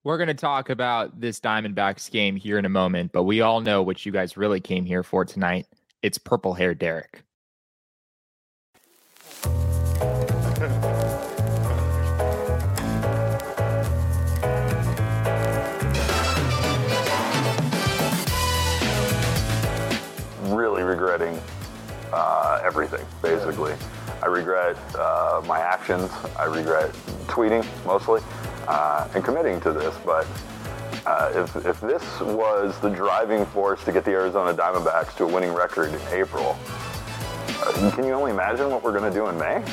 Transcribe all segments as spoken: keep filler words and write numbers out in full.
We're going to talk about this Diamondbacks game here in a moment, but we all know what you guys really came here for tonight. It's Purple Hair Derek. Really regretting uh, everything, basically. I regret uh, my actions. I regret tweeting, mostly, uh, and committing to this. But uh, if, if this was the driving force to get the Arizona Diamondbacks to a winning record in April, uh, can you only imagine what we're going to do in May?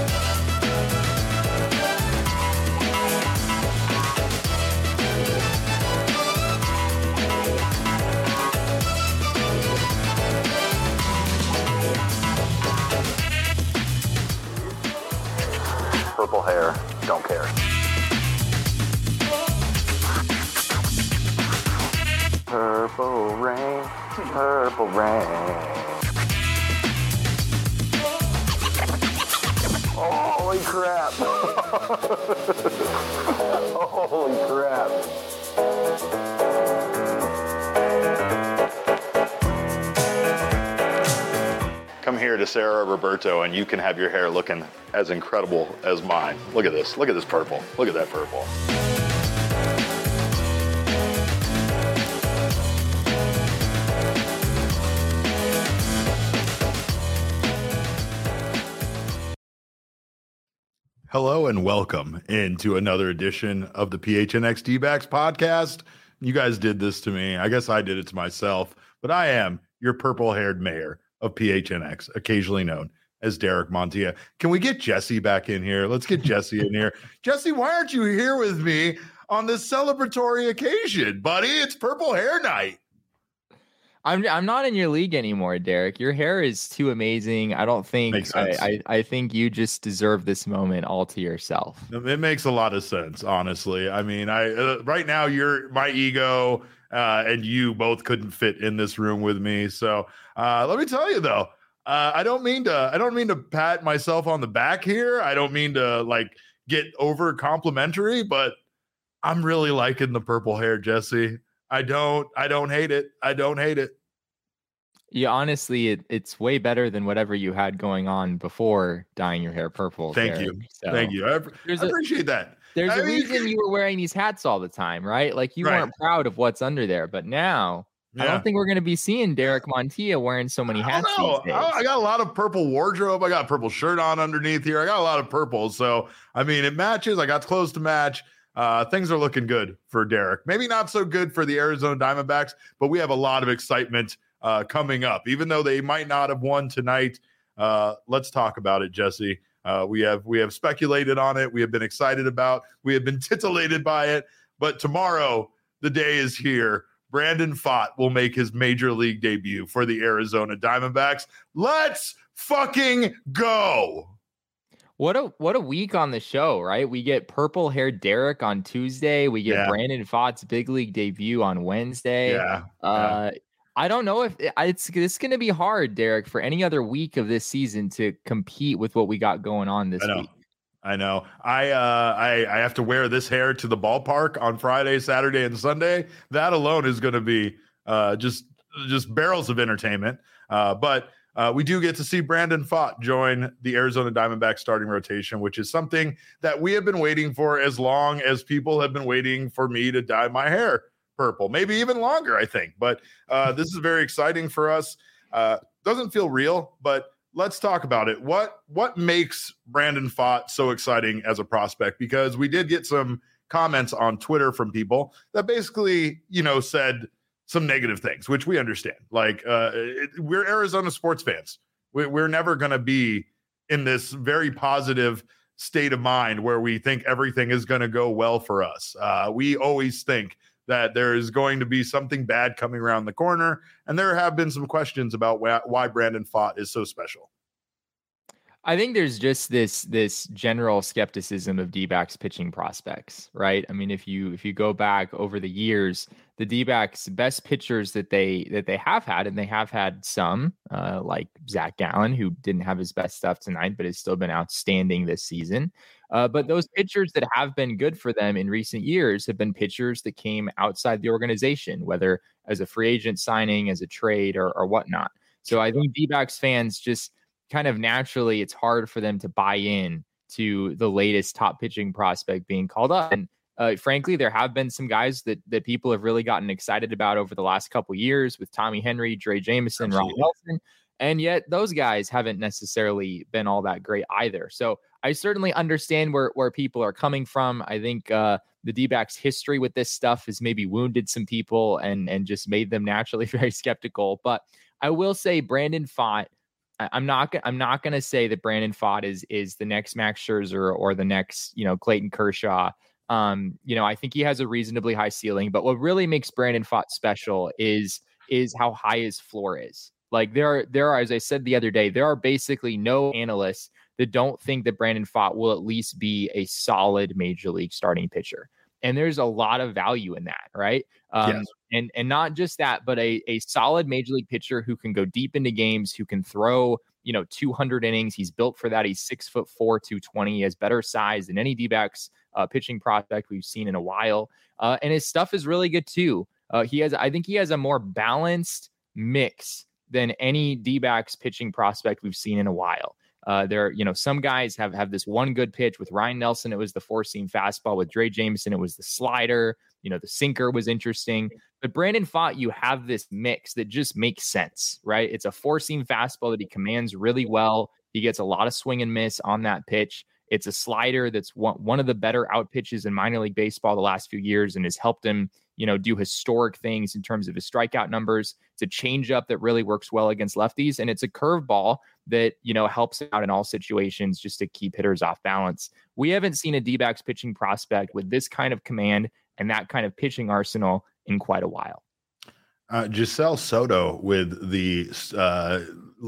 Purple hair, don't care. Purple rain, purple rain. Holy crap. Holy crap. Come here to Sarah Roberto and you can have your hair looking as incredible as mine. Look at this. Look at this purple. Look at that purple. Hello and welcome into another edition of the P H N X D-Backs podcast. You guys did this to me. I guess I did it to myself, but I am your purple-haired mayor of P H N X, occasionally known as Derek Montilla. Can we get Jesse back in here? Let's get Jesse in here. Jesse, why aren't you here with me on this celebratory occasion, buddy? It's Purple Hair Night. I'm I'm not in your league anymore, Derek. Your hair is too amazing. I don't think Makes I, sense. I I think you just deserve this moment all to yourself. It makes a lot of sense, honestly. I mean, I uh, right now you're my ego uh, and you both couldn't fit in this room with me. So uh, let me tell you though, uh, I don't mean to I don't mean to pat myself on the back here. I don't mean to like get over complimentary, but I'm really liking the purple hair, Jesse. I don't I don't hate it. I don't hate it. Yeah, honestly, it, it's way better than whatever you had going on before dyeing your hair purple. Thank Derek. you. So Thank you. I, I there's a- appreciate that. There's I a mean, reason you were wearing these hats all the time, right? Like you Right. weren't proud of what's under there, but now I Yeah. don't think we're going to be seeing Derek Montilla wearing so many I hats don't know. these days. I, I got a lot of purple wardrobe. I got a purple shirt on underneath here. I got a lot of purple. So, I mean, it matches. I got clothes to match. Uh, things are looking good for Derek. Maybe not so good for the Arizona Diamondbacks, but we have a lot of excitement uh, coming up. Even though they might not have won tonight, uh, let's talk about it, Jesse. Uh, we have we have speculated on it. We have been excited about. We have been titillated by it. But tomorrow, the day is here. Brandon Pfaadt will make his major league debut for the Arizona Diamondbacks. Let's fucking go. What a what a week on the show, right? We get purple hair Derek on Tuesday. We get Yeah. Brandon Pfaadt's big league debut on Wednesday. Yeah. Uh, I don't know if it's it's going to be hard, Derek, for any other week of this season to compete with what we got going on this I know. week. I know. I, uh, I I have to wear this hair to the ballpark on Friday, Saturday, and Sunday. That alone is going to be uh, just just barrels of entertainment. Uh, but uh, we do get to see Brandon Pfaadt join the Arizona Diamondbacks starting rotation, which is something that we have been waiting for as long as people have been waiting for me to dye my hair purple, maybe even longer, I think. But uh, this is very exciting for us. Uh, doesn't feel real, but let's talk about it. What what makes Brandon Pfaadt so exciting as a prospect? Because we did get some comments on Twitter from people that basically, you know, said some negative things, which we understand. Like, uh, it, we're Arizona sports fans. We, we're never going to be in this very positive state of mind where we think everything is going to go well for us. Uh, we always think that there is going to be something bad coming around the corner. And there have been some questions about wh- why Brandon Pfaadt is so special. I think there's just this this general skepticism of D-backs pitching prospects, right? I mean, if you if you go back over the years, the D-backs best pitchers that they that they have had, and they have had some, uh, like Zach Gallen, who didn't have his best stuff tonight, but has still been outstanding this season. Uh, but those pitchers that have been good for them in recent years have been pitchers that came outside the organization, whether as a free agent signing, as a trade, or, or whatnot. So I think D-backs fans just kind of naturally, it's hard for them to buy in to the latest top pitching prospect being called up. And uh, frankly, there have been some guys that that people have really gotten excited about over the last couple of years with Tommy Henry, Drey Jameson, Ron Nelson. And yet those guys haven't necessarily been all that great either. So I certainly understand where, where people are coming from. I think uh, the D-backs history with this stuff has maybe wounded some people and, and just made them naturally very skeptical. But I will say Brandon Pfaadt, I'm not. I'm not going to say that Brandon Pfaadt is is the next Max Scherzer or the next, you know, Clayton Kershaw. Um, you know, I think he has a reasonably high ceiling, but what really makes Brandon Pfaadt special is is how high his floor is. Like there are there are, as I said the other day, there are basically no analysts that don't think that Brandon Pfaadt will at least be a solid major league starting pitcher. And there's a lot of value in that, right? Um, yes. And and not just that, but a a solid major league pitcher who can go deep into games, who can throw, you know, two hundred innings. He's built for that. He's six foot four, two twenty. He has better size than any D-backs uh, pitching prospect we've seen in a while. Uh, and his stuff is really good too. Uh, he has, I think, he has a more balanced mix than any D-backs pitching prospect we've seen in a while. Uh, there, you know, some guys have have this one good pitch. With Ryan Nelson, it was the four-seam fastball. With Drey Jameson, it was the slider. You know, the sinker was interesting. But Brandon Pfaadt, you have this mix that just makes sense, right? It's a four-seam fastball that he commands really well. He gets a lot of swing and miss on that pitch. It's a slider that's one, one of the better out pitches in minor league baseball the last few years and has helped him, you know, do historic things in terms of his strikeout numbers. It's a changeup that really works well against lefties, and it's a curveball that, you know, helps out in all situations just to keep hitters off balance. We haven't seen a D-backs pitching prospect with this kind of command and that kind of pitching arsenal in quite a while. Uh, Giselle Soto with the uh,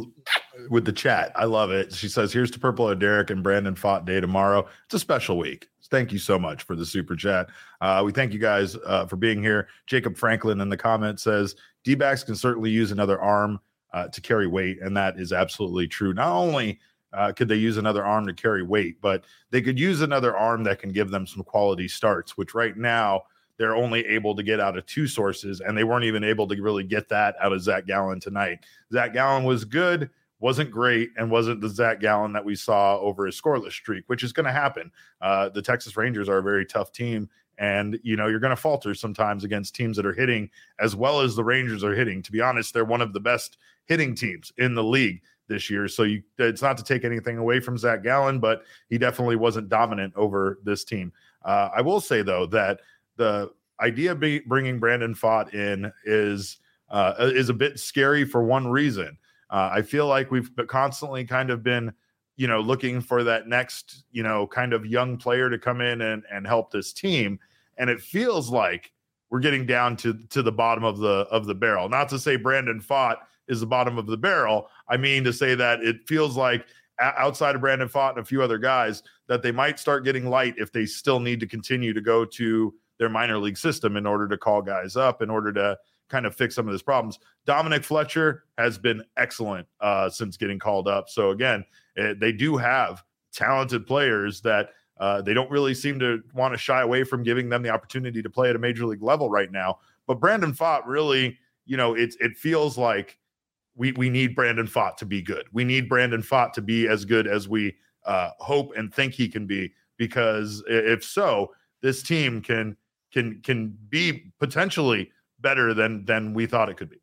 with the chat. I love it. She says, here's to Purple and Derek and Brandon Pfaadt Day tomorrow. It's a special week. Thank you so much for the super chat. Uh, we thank you guys uh, for being here. Jacob Franklin in the comments says, D-backs can certainly use another arm uh, to carry weight, and that is absolutely true. Not only uh, could they use another arm to carry weight, but they could use another arm that can give them some quality starts, which right now they're only able to get out of two sources, and they weren't even able to really get that out of Zach Gallen tonight. Zach Gallen was good, wasn't great, and wasn't the Zach Gallen that we saw over his scoreless streak, which is going to happen. Uh, the Texas Rangers are a very tough team, and, you know, you're going to falter sometimes against teams that are hitting as well as the Rangers are hitting. To be honest, they're one of the best hitting teams in the league this year. So you, it's not to take anything away from Zach Gallen, but he definitely wasn't dominant over this team. Uh, I will say, though, that the idea of be, bringing Brandon Pfaadt in is uh, is a bit scary for one reason. Uh, I feel like we've constantly kind of been, you know, looking for that next, you know, kind of young player to come in and, and help this team. And it feels like we're getting down to, to the bottom of the of the barrel. Not to say Brandon Pfaadt is the bottom of the barrel. I mean to say that it feels like outside of Brandon Pfaadt and a few other guys that they might start getting light if they still need to continue to go to their minor league system in order to call guys up, in order to kind of fix some of these problems. Dominic Fletcher has been excellent uh, since getting called up. So again, it, they do have talented players that uh, they don't really seem to want to shy away from giving them the opportunity to play at a major league level right now. But Brandon Pfaadt really, you know, it, it feels like we, we need Brandon Pfaadt to be good. We need Brandon Pfaadt to be as good as we uh, hope and think he can be, because if so, this team can can can be potentially better than than we thought it could be.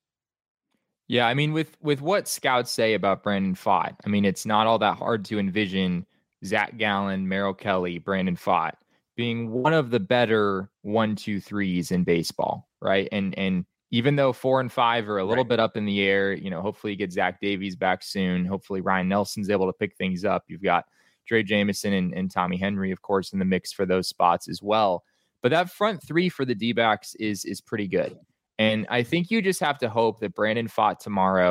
Yeah, I mean, with with what scouts say about Brandon Pfaadt, I mean, it's not all that hard to envision Zach Gallen, Merrill Kelly, Brandon Pfaadt being one of the better one, two, threes in baseball, right? And and even though four and five are a little right. bit up in the air, you know, hopefully you get Zach Davies back soon. Hopefully Ryan Nelson's able to pick things up. You've got Drey Jameson and, and Tommy Henry, of course, in the mix for those spots as well. But that front three for the D-backs is is pretty good. And I think you just have to hope that Brandon Pfaadt tomorrow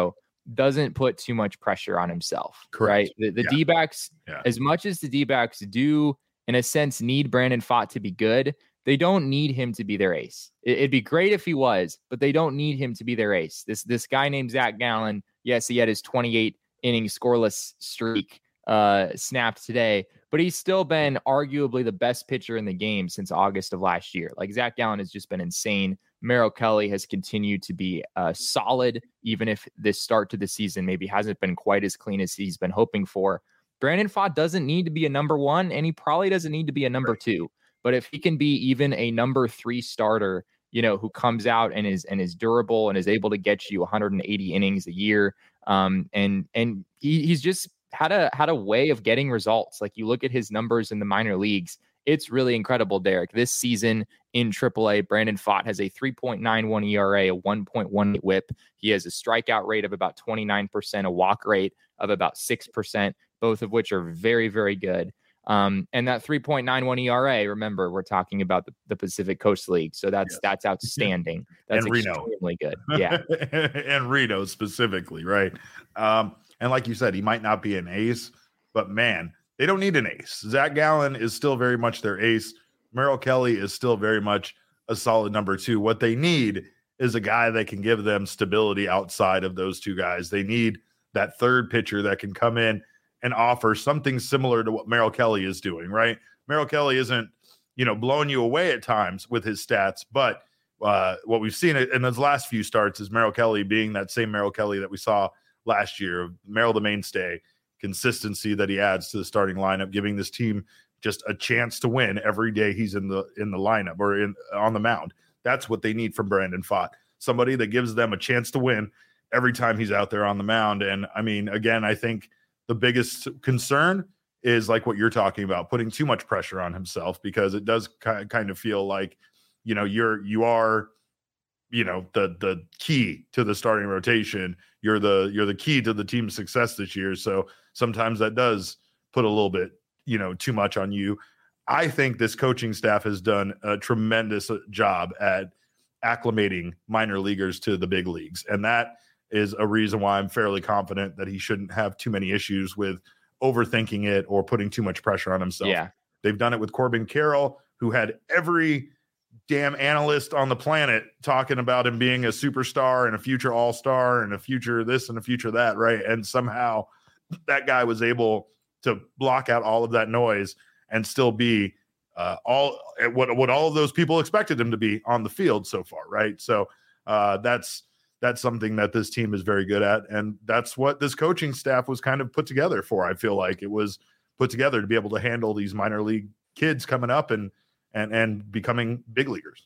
doesn't put too much pressure on himself. Correct. Right. The, the yeah. D-backs, yeah. as much as the D-backs do, in a sense, need Brandon Pfaadt to be good, they don't need him to be their ace. It, it'd be great if he was, but they don't need him to be their ace. This this guy named Zach Gallen, yes, he had his twenty-eight inning scoreless streak uh, snapped today, but he's still been arguably the best pitcher in the game since August of last year. Like, Zach Gallen has just been insane. Merrill Kelly has continued to be uh, solid, even if this start to the season maybe hasn't been quite as clean as he's been hoping for. Brandon Pfaadt doesn't need to be a number one, and he probably doesn't need to be a number two. But if he can be even a number three starter, you know, who comes out and is and is durable and is able to get you one hundred eighty innings a year, um, and and he, he's just had a had a way of getting results. Like, you look at his numbers in the minor leagues, it's really incredible, Derek. This season in triple A, Brandon Pfaadt has a three point nine one E R A, a one point one eight whip. He has a strikeout rate of about twenty-nine percent, a walk rate of about six percent, both of which are very, very good. Um, and that three point nine one E R A, remember, we're talking about the, the Pacific Coast League. So that's, yes. that's outstanding. That's and extremely Reno. good. Yeah. And Reno specifically. Right. Um, and like you said, he might not be an ace, but man, they don't need an ace. Zach Gallen is still very much their ace. Merrill Kelly is still very much a solid number two. What they need is a guy that can give them stability outside of those two guys. They need that third pitcher that can come in and offer something similar to what Merrill Kelly is doing, right? Merrill Kelly isn't, you know, blowing you away at times with his stats, but uh, what we've seen in those last few starts is Merrill Kelly being that same Merrill Kelly that we saw last year. Merrill the mainstay, consistency that he adds to the starting lineup, giving this team just a chance to win every day he's in the in the lineup or in on the mound. That's what they need from Brandon Pfaadt. Somebody that gives them a chance to win every time he's out there on the mound. And I mean, again, I think the biggest concern is like what you're talking about, putting too much pressure on himself, because it does kind of feel like, you know, you're, you are, you know, the, the key to the starting rotation. You're the, you're the key to the team's success this year. So sometimes that does put a little bit, you know, too much on you. I think this coaching staff has done a tremendous job at acclimating minor leaguers to the big leagues. And that is a reason why I'm fairly confident that he shouldn't have too many issues with overthinking it or putting too much pressure on himself. Yeah. They've done it with Corbin Carroll, who had every damn analyst on the planet talking about him being a superstar and a future all-star and a future this and a future that, right? And somehow that guy was able to block out all of that noise and still be uh, all what, what all of those people expected him to be on the field so far, right? So uh, that's That's something that this team is very good at. And that's what this coaching staff was kind of put together for. I feel like it was put together to be able to handle these minor league kids coming up and, and, and becoming big leaguers.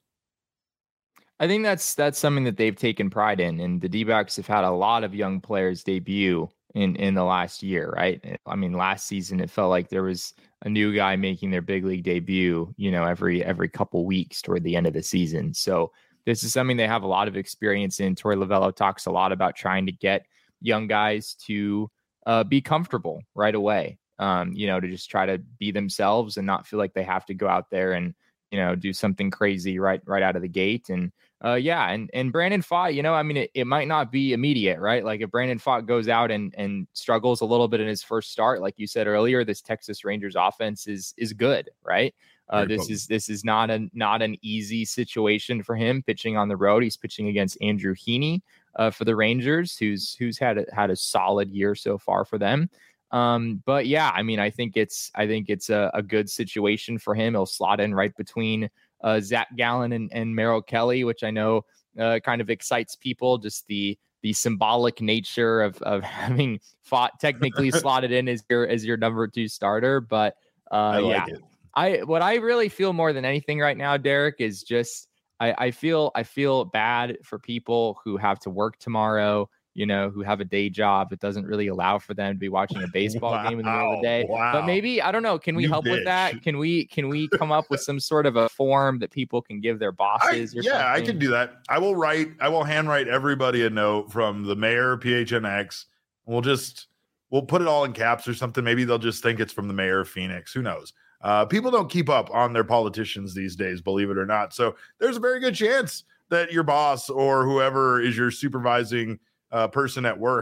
I think that's, that's something that they've taken pride in. And the D-backs have had a lot of young players debut in, in the last year, right? I mean, last season, it felt like there was a new guy making their big league debut, you know, every, every couple weeks toward the end of the season. So this is something they have a lot of experience in. Torey Lovullo talks a lot about trying to get young guys to uh, be comfortable right away, um, you know, to just try to be themselves and not feel like they have to go out there and, you know, do something crazy right right out of the gate. And uh, yeah, and and Brandon Pfaadt, you know, I mean, it, it might not be immediate, right? Like if Brandon Pfaadt goes out and and struggles a little bit in his first start, like you said earlier, this Texas Rangers offense is is good, right? Uh, this is this is not a not an easy situation for him pitching on the road. He's pitching against Andrew Heaney uh, for the Rangers, who's who's had a, had a solid year so far for them. Um, but yeah, I mean, I think it's I think it's a, a good situation for him. He'll slot in right between uh, Zach Gallen and, and Merrill Kelly, which I know uh, kind of excites people. Just the the symbolic nature of of having fought technically slotted in as your as your number two starter, but uh, I like yeah. it. I what I really feel more than anything right now, Derek, is just I, I feel I feel bad for people who have to work tomorrow, you know, who have a day job that doesn't really allow for them to be watching a baseball wow, game in the middle of the day. Wow. But maybe, I don't know, can we You help bitch. with that? Can we can we come up with some sort of a form that people can give their bosses I, or yeah, something? I can do that. I will write, I will handwrite everybody a note from the mayor, P H N X. We'll just, we'll put it all in caps or something. Maybe they'll just think it's from the mayor of Phoenix. Who knows? Uh, people don't keep up on their politicians these days, believe it or not. So there's a very good chance that your boss or whoever is your supervising uh, person at work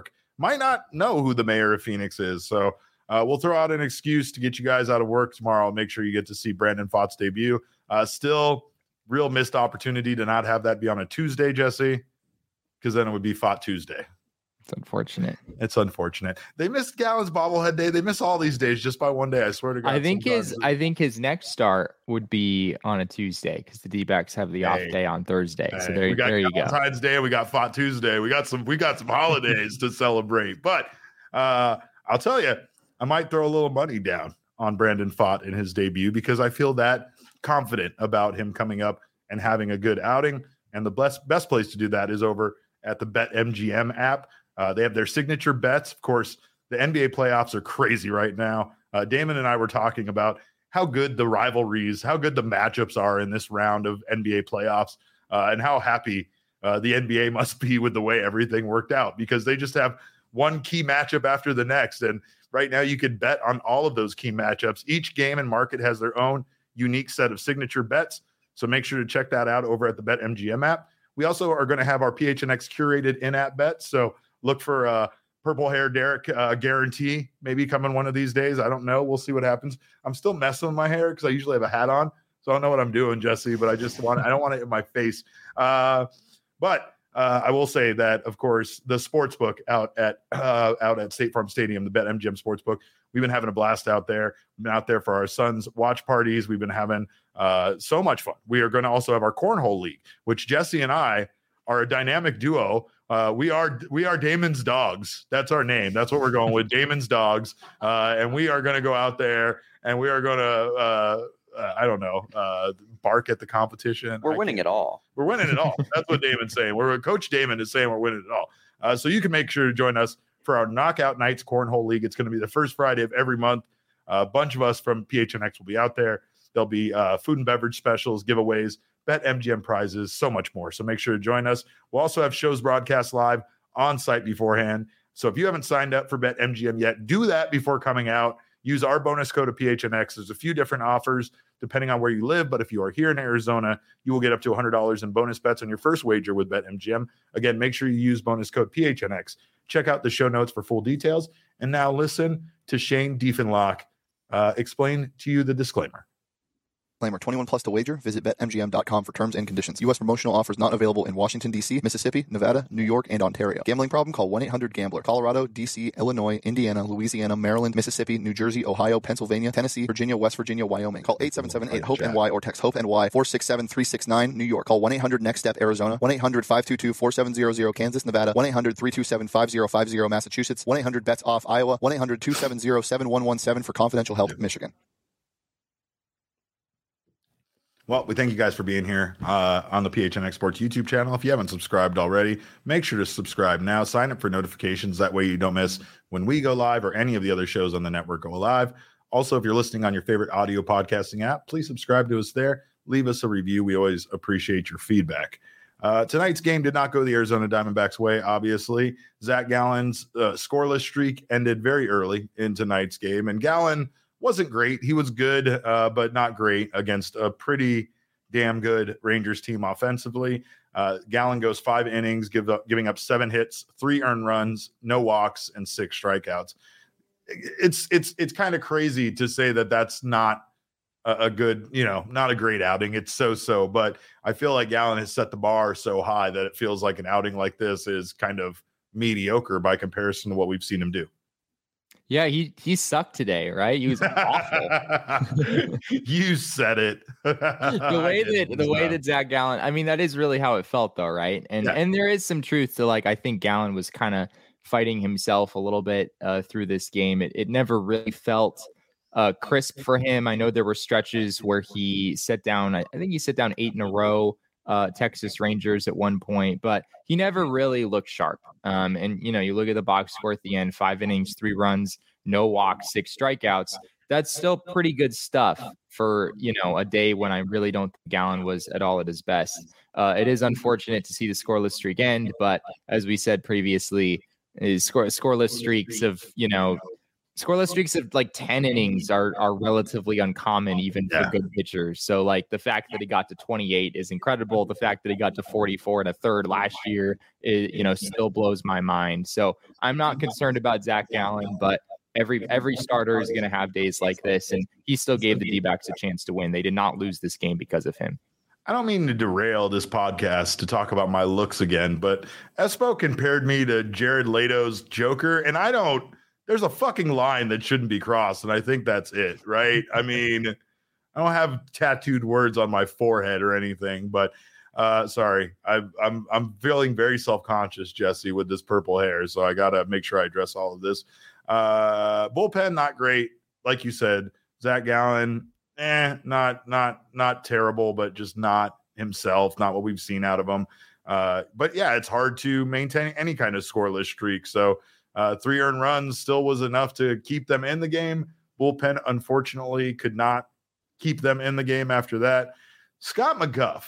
might not know who the mayor of Phoenix is. So uh, we'll throw out an excuse to get you guys out of work tomorrow. Make sure you get to see Brandon Pfaadt's debut. Uh, still, real missed opportunity to not have that be on a Tuesday, Jesse, because then it would be Pfaadt Tuesday. It's unfortunate. It's unfortunate. They missed Gallen's bobblehead day. They miss all these days just by one day. I swear to God. I think his I think his next start would be on a Tuesday because the D-backs have the hey, off day on Thursday. Hey, so there, we got there you go. Valentine's Day. We got Pfaadt Tuesday. We got some we got some holidays to celebrate. But uh, I'll tell you, I might throw a little money down on Brandon Pfaadt in his debut because I feel that confident about him coming up and having a good outing. And the best best place to do that is over at the BetMGM app. Uh, they have their signature bets. Of course, the N B A playoffs are crazy right now. Uh, Damon and I were talking about how good the rivalries, how good the matchups are in this round of N B A playoffs, uh, and how happy uh, the N B A must be with the way everything worked out because they just have one key matchup after the next. And right now you could bet on all of those key matchups. Each game and market has their own unique set of signature bets. So make sure to check that out over at the BetMGM app. We also are going to have our P H N X curated in-app bets. So look for uh, purple hair Derek uh, guarantee maybe coming one of these days. I don't know. We'll see what happens. I'm still messing with my hair because I usually have a hat on. So I don't know what I'm doing, Jesse, but I just want, I don't want it in my face. Uh, but uh, I will say that, of course, the sports book out at uh, out at State Farm Stadium, the BetMGM Sportsbook, we've been having a blast out there. We've been out there for our son's watch parties. We've been having uh, so much fun. We are going to also have our Cornhole League, which Jesse and I are a dynamic duo. Uh, we are we are Damon's Dogs. That's our name. That's what we're going with, Damon's Dogs. Uh, and we are going to go out there and we are going to, uh, uh, I don't know, uh, bark at the competition. We're I winning it all. We're winning it all. That's what Damon's saying. We're Coach Damon is saying we're winning it all. Uh, so you can make sure to join us for our Knockout Nights Cornhole League. It's going to be the first Friday of every month. Uh, a bunch of us from P H N X will be out there. There'll be uh, food and beverage specials, giveaways, BetMGM prizes, so much more. So make sure to join us. We'll also have shows broadcast live on site beforehand. So if you haven't signed up for BetMGM yet, do that before coming out. Use our bonus code of P H N X. There's a few different offers depending on where you live, but if you are here in Arizona, you will get up to one hundred dollars in bonus bets on your first wager with BetMGM. Again, make sure you use bonus code P H N X. Check out the show notes for full details. And now listen to Shane Diefenloch uh, explain to you the disclaimer. Disclaimer, twenty-one plus to wager. Visit Bet M G M dot com for terms and conditions. U S promotional offers not available in Washington, D C, Mississippi, Nevada, New York, and Ontario. Gambling problem? Call one eight hundred gambler. Colorado, D C, Illinois, Indiana, Louisiana, Maryland, Mississippi, New Jersey, Ohio, Pennsylvania, Tennessee, Virginia, West Virginia, Wyoming. Call eight seven seven eight hope N Y or text HOPE-N Y four six seven three six nine. New York. Call one eight hundred next step Arizona. one eight hundred five two two four seven zero zero Kansas, Nevada. one eight hundred three two seven five zero five zero Massachusetts. one eight hundred bets off Iowa. one eight hundred two seven zero seven one one seven for confidential help, Michigan. Well, we thank you guys for being here uh, on the P H N X Sports YouTube channel. If you haven't subscribed already, make sure to subscribe now. Sign up for notifications. That way you don't miss when we go live or any of the other shows on the network go live. Also, if you're listening on your favorite audio podcasting app, please subscribe to us there. Leave us a review. We always appreciate your feedback. Uh, tonight's game did not go the Arizona Diamondbacks' way, obviously. Zach Gallen's uh, scoreless streak ended very early in tonight's game, and Gallen wasn't great. He was good, uh, but not great against a pretty damn good Rangers team offensively. Uh, Gallen goes five innings, give up, giving up seven hits, three earned runs, no walks, and six strikeouts. It's it's it's kind of crazy to say that that's not a, a good, you know, not a great outing. It's so-so, but I feel like Gallen has set the bar so high that it feels like an outing like this is kind of mediocre by comparison to what we've seen him do. Yeah, he he sucked today, right? He was awful. You said it. the way that the way that Zach Gallen, I mean, that is really how it felt, though, right? And yeah. and there is some truth to, like, I think Gallen was kind of fighting himself a little bit uh, through this game. It it never really felt uh, crisp for him. I know there were stretches where he set down. I, I think he set down eight in a row. Uh, Texas Rangers at one point, but he never really looked sharp. Um, and, you know, you look at the box score at the end, five innings, three runs, no walks, six strikeouts. That's still pretty good stuff for, you know, a day when I really don't think Gallen was at all at his best. Uh, it is unfortunate to see the scoreless streak end, but as we said previously, is score, scoreless streaks of, you know, scoreless streaks of like ten innings are are relatively uncommon even Yeah. for good pitchers. So like the fact that he got to twenty-eight is incredible. The fact that he got to forty-four and a third last year is, you know, still blows my mind. So I'm not concerned about Zach Gallen, but every every starter is going to have days like this, and he still gave the D-backs a chance to win. They did not lose this game because of him. I don't mean to derail this podcast to talk about my looks again, but Espo compared me to Jared Leto's Joker, and I don't. There's a fucking line that shouldn't be crossed, and I think that's it, right? I mean, I don't have tattooed words on my forehead or anything, but uh, sorry, I, I'm I'm feeling very self-conscious, Jesse, with this purple hair, so I gotta make sure I address all of this. Uh, bullpen not great, like you said. Zach Gallen, eh, not not not terrible, but just not himself, not what we've seen out of him. Uh, but yeah, it's hard to maintain any kind of scoreless streak, so. Uh, three earned runs still was enough to keep them in the game. Bullpen, unfortunately, could not keep them in the game after that. Scott McGough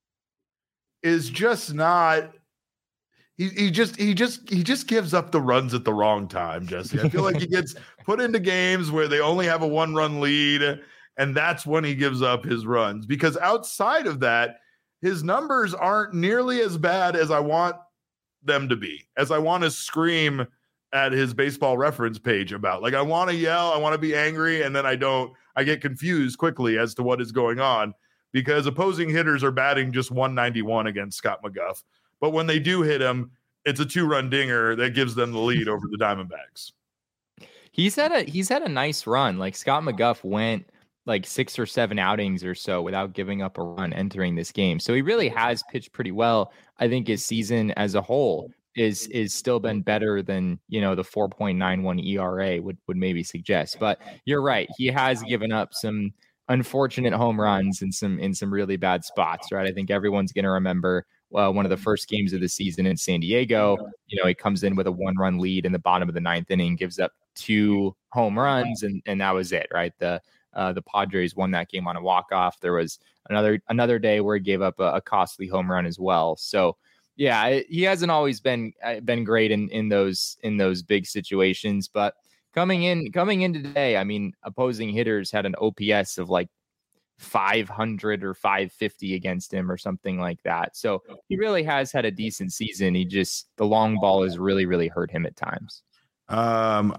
is just not. He, he just he just he just gives up the runs at the wrong time, Jesse. I feel like he gets put into games where they only have a one-run lead, and that's when he gives up his runs. Because outside of that, his numbers aren't nearly as bad as I want them to be, as I want to scream at his Baseball Reference page about. Like, I want to yell, I want to be angry, and then I don't. I get confused quickly as to what is going on because opposing hitters are batting just one ninety-one against Scott McGough. But when they do hit him, it's a two-run dinger that gives them the lead over the Diamondbacks. He's had a he's had a nice run. Like Scott McGough went like six or seven outings or so without giving up a run entering this game. So he really has pitched pretty well. I think his season as a whole is is still been better than, you know, the four point nine one E R A would would maybe suggest. But you're right. He has given up some unfortunate home runs in some in some really bad spots, right? I think everyone's going to remember uh, one of the first games of the season in San Diego. You know, he comes in with a one run lead in the bottom of the ninth inning, gives up two home runs, and and that was it, right? The uh, the Padres won that game on a walk off. There was another another day where he gave up a, a costly home run as well. So. Yeah, he hasn't always been been great in, in those in those big situations, but coming in coming in today, I mean, opposing hitters had an O P S of like five hundred or five fifty against him or something like that. So he really has had a decent season. He just the long ball has really really hurt him at times. Um,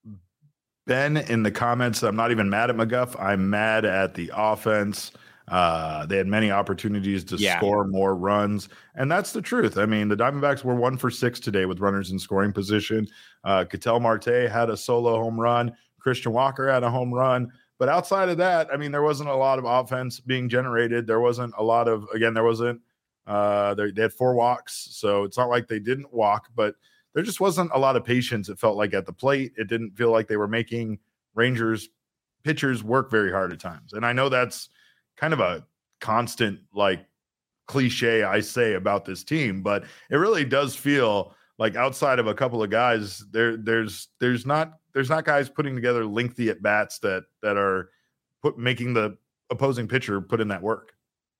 Ben in the comments, I'm not even mad at McGough. I'm mad at the offense. Uh, they had many opportunities to yeah. score more runs, and that's the truth. I mean, the Diamondbacks were one for six today with runners in scoring position. Uh, Ketel Marte had a solo home run. Christian Walker had a home run. But outside of that, I mean, there wasn't a lot of offense being generated. There wasn't a lot of, again, there wasn't, uh, they, they had four walks, so it's not like they didn't walk, but there just wasn't a lot of patience, it felt like, at the plate. It didn't feel like they were making Rangers pitchers work very hard at times. And I know that's kind of a constant like cliche I say about this team, but it really does feel like outside of a couple of guys, there there's there's not there's not guys putting together lengthy at bats that that are put making the opposing pitcher put in that work.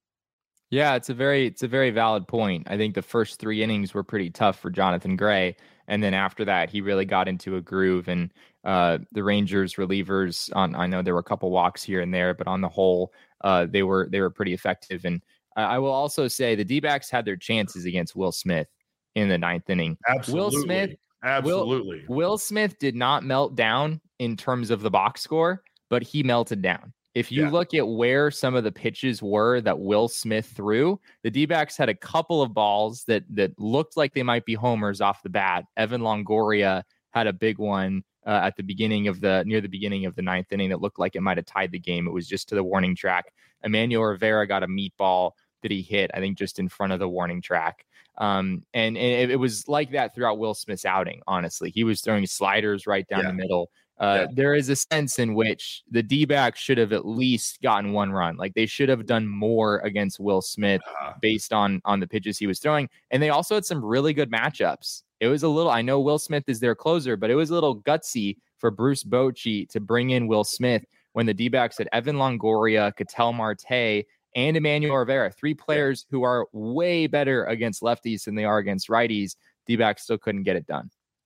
Yeah, it's a very it's a very valid point. I think the first three innings were pretty tough for Jonathan Gray, and then after that, he really got into a groove. And uh, the Rangers relievers, on I know there were a couple walks here and there, but on the whole, uh, they were they were pretty effective. And I will also say the D-backs had their chances against Will Smith in the ninth inning. Absolutely. Will Smith, Absolutely. Will, Will Smith did not melt down in terms of the box score, but he melted down. If you yeah. look at where some of the pitches were that Will Smith threw, the D-backs had a couple of balls that that looked like they might be homers off the bat. Evan Longoria had a big one uh, at the beginning of the near the beginning of the ninth inning that looked like it might have tied the game. It was just to the warning track. Emmanuel Rivera got a meatball that he hit, I think, just in front of the warning track. Um, and, and it, it was like that throughout Will Smith's outing, honestly. He was throwing sliders right down yeah. the middle. Uh, yeah. There is a sense in which the D-backs should have at least gotten one run. Like they should have done more against Will Smith uh, based on, on the pitches he was throwing. And they also had some really good matchups. It was a little, I know Will Smith is their closer, but it was a little gutsy for Bruce Bochy to bring in Will Smith when the D-backs had Evan Longoria, Ketel Marte, and Emmanuel Rivera, three players who are way better against lefties than they are against righties. D-backs still couldn't get it done.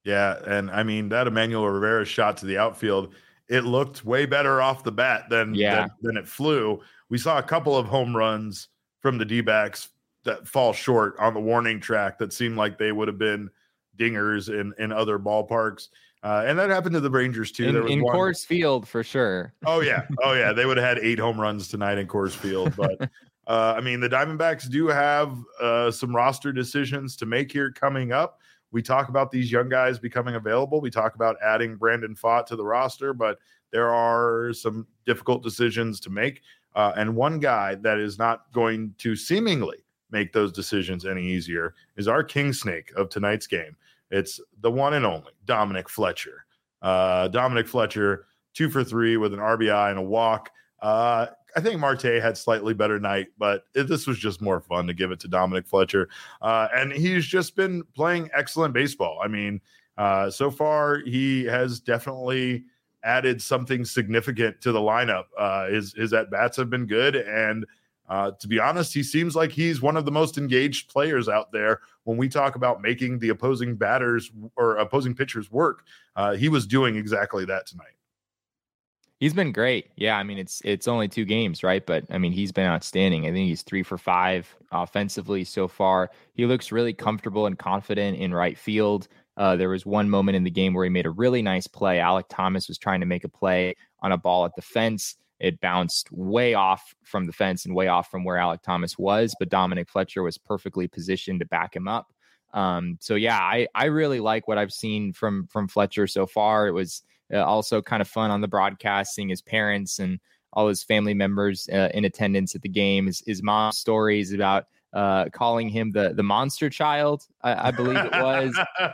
Yeah, and I mean that Emmanuel Rivera shot to the outfield, it looked way better off the bat than yeah. than, than it flew. We saw a couple of home runs from the D-backs that fall short on the warning track that seemed like they would have been dingers in in other ballparks. Uh, and that happened to the Rangers too. In, there was in one, Coors Field for sure. Oh yeah, oh yeah, they would have had eight home runs tonight in Coors Field. But uh, I mean, the Diamondbacks do have uh, some roster decisions to make here coming up. We talk about these young guys becoming available. We talk about adding Brandon Pfaadt to the roster, but there are some difficult decisions to make. Uh, and one guy that is not going to seemingly make those decisions any easier is our king snake of tonight's game. It's the one and only Dominic Fletcher. Uh, Dominic Fletcher, two for three with an R B I and a walk. Uh, I think Marte had slightly better night, but it, this was just more fun to give it to Dominic Fletcher. Uh, and he's just been playing excellent baseball. I mean, uh, so far he has definitely added something significant to the lineup. Uh, his, his at-bats have been good. And uh, to be honest, he seems like he's one of the most engaged players out there when we talk about making the opposing batters or opposing pitchers work. Uh, he was doing exactly that tonight. He's been great. Yeah, I mean, it's it's only two games, right? But, I mean, he's been outstanding. I think he's three for five offensively so far. He looks really comfortable and confident in right field. Uh, there was one moment in the game where he made a really nice play. Alek Thomas was trying to make a play on a ball at the fence. It bounced way off from the fence and way off from where Alek Thomas was, but Dominic Fletcher was perfectly positioned to back him up. Um, so, yeah, I, I really like what I've seen from from Fletcher so far. It was Uh, also kind of fun on the broadcast, seeing his parents and all his family members uh, in attendance at the game. His, his mom's stories about uh, calling him the the monster child, I, I believe it was.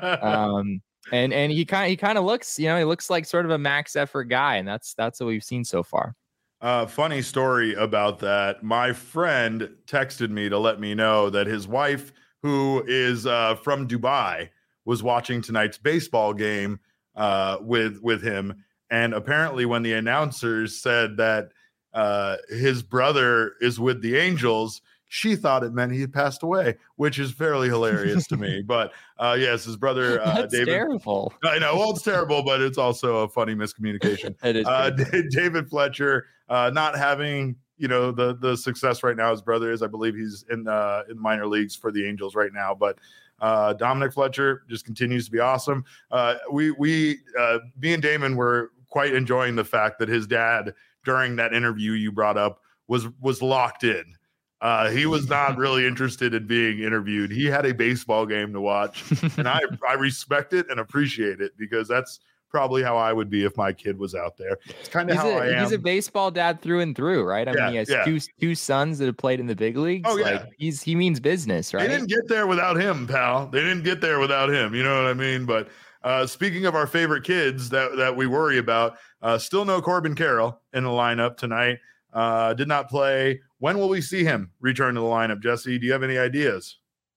um, and and he kind of he kind of looks, you know, he looks like sort of a max effort guy, and that's that's what we've seen so far. Uh, funny story about that. My friend texted me to let me know that his wife, who is uh, from Dubai, was watching tonight's baseball game uh with with him, and apparently when the announcers said that uh his brother is with the Angels, she thought it meant he had passed away, which is fairly hilarious to me. But uh yes, his brother uh That's David terrible. I know, well, it's terrible, but it's also a funny miscommunication. It is uh David Fletcher uh not having, you know, the the success right now his brother is. I believe he's in uh in minor leagues for the Angels right now, but Uh, Dominic Fletcher just continues to be awesome. Uh, we, we, uh, me and Damon were quite enjoying the fact that his dad, during that interview you brought up, was was locked in. Uh, he was not really interested in being interviewed. He had a baseball game to watch, and I, I respect it and appreciate it, because that's probably how I would be if my kid was out there. It's kind of how a, I am. He's a baseball dad through and through, right? I yeah, mean, he has yeah. two two sons that have played in the big leagues. Oh, yeah. Like, he's he means business, right? They didn't get there without him, pal. They didn't get there without him. You know what I mean? But uh, speaking of our favorite kids that, that we worry about, uh, still no Corbin Carroll in the lineup tonight. Uh, did not play. When will we see him return to the lineup, Jesse? Do you have any ideas?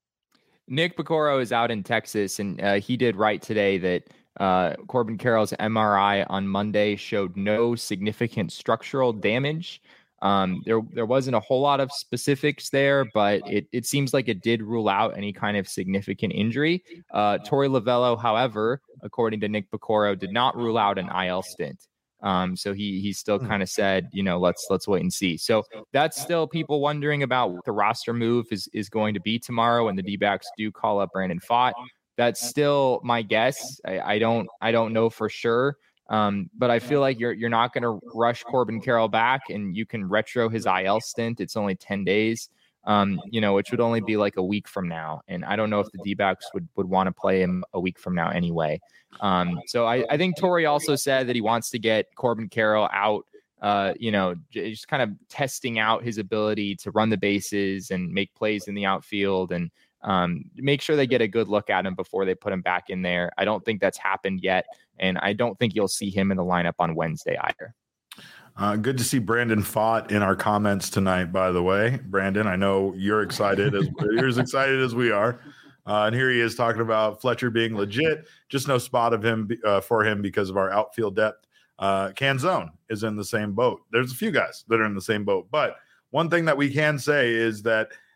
Nick Piccoro is out in Texas, and uh, he did write today that Uh, Corbin Carroll's M R I on Monday showed no significant structural damage. Um, there, there wasn't a whole lot of specifics there, but it, it seems like it did rule out any kind of significant injury. Uh, Torey Lovullo, however, according to Nick Piccoro, did not rule out an I L stint. Um, so he he still kind of said, you know, let's let's wait and see. So that's still people wondering about what the roster move is is going to be tomorrow when the D-backs do call up Brandon Pfaadt. That's still my guess. I, I don't I don't know for sure. Um, but I feel like you're you're not going to rush Corbin Carroll back, and you can retro his I L stint. It's only ten days, um, you know, which would only be like a week from now. And I don't know if the D-backs would, would want to play him a week from now anyway. Um, so I, I think Torey also said that he wants to get Corbin Carroll out, uh, you know, just kind of testing out his ability to run the bases and make plays in the outfield, and Um, make sure they get a good look at him before they put him back in there. I don't think that's happened yet, and I don't think you'll see him in the lineup on Wednesday either. Uh, good to see Brandon Pfaadt in our comments tonight, by the way. Brandon, I know you're excited as you're as excited as we are. Uh, and here he is talking about Fletcher being legit. Just no spot of him uh, for him because of our outfield depth. Uh, Canzone is in the same boat. There's a few guys that are in the same boat, but one thing that we can say is that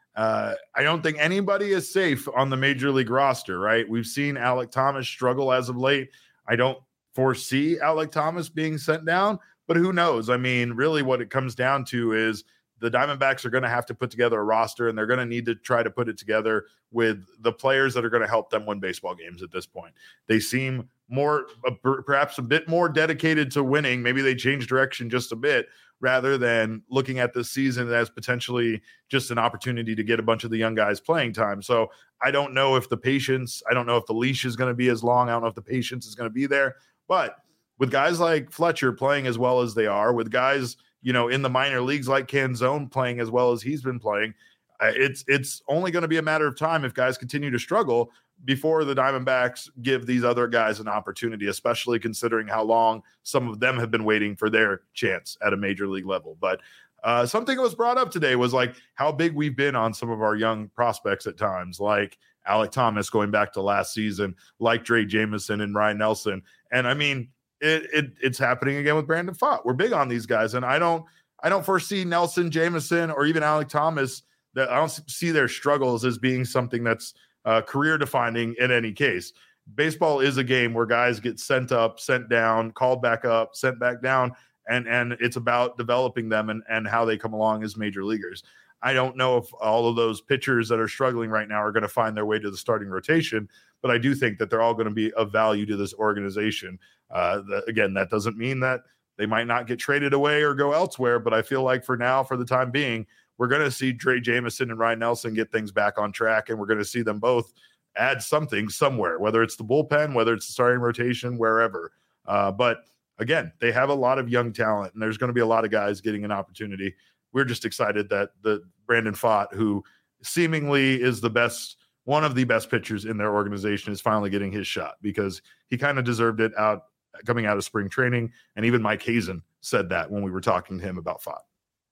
uh, I don't think anybody is safe on the major league roster, right? We've seen Alek Thomas struggle as of late. I don't foresee Alek Thomas being sent down, but who knows? I mean, really what it comes down to is the Diamondbacks are going to have to put together a roster, and they're going to need to try to put it together with the players that are going to help them win baseball games at this point. They seem more, uh, perhaps a bit more dedicated to winning. Maybe they change direction just a bit rather than looking at this season as potentially just an opportunity to get a bunch of the young guys playing time. So I don't know if the patience, I don't know if the leash is going to be as long. I don't know if the patience is going to be there. But with guys like Fletcher playing as well as they are, with guys, you know, in the minor leagues like Canzone playing as well as he's been playing, uh, it's it's only going to be a matter of time if guys continue to struggle before the Diamondbacks give these other guys an opportunity, especially considering how long some of them have been waiting for their chance at a major league level. But uh, something that was brought up today was like how big we've been on some of our young prospects at times, like Alek Thomas going back to last season, like Drey Jameson and Ryan Nelson. And I mean, It, it it's happening again with Brandon Pfaadt. We're big on these guys, and I don't I don't foresee Nelson, Jameson, or even Alek Thomas. That I don't see their struggles as being something that's uh, career defining in any case. Baseball is a game where guys get sent up, sent down, called back up, sent back down, and and it's about developing them and and how they come along as major leaguers. I don't know if all of those pitchers that are struggling right now are going to find their way to the starting rotation, but I do think that they're all going to be of value to this organization. Uh, the, again, that doesn't mean that they might not get traded away or go elsewhere, but I feel like for now, for the time being, we're going to see Drey Jameson and Ryan Nelson get things back on track, and we're going to see them both add something somewhere, whether it's the bullpen, whether it's the starting rotation, wherever. Uh, but again, they have a lot of young talent, and there's going to be a lot of guys getting an opportunity. We're just excited that the Brandon Pfaadt, who seemingly is the best, one of the best pitchers in their organization, is finally getting his shot, because he kind of deserved it out coming out of spring training. And even Mike Hazen said that when we were talking to him about Pfaadt.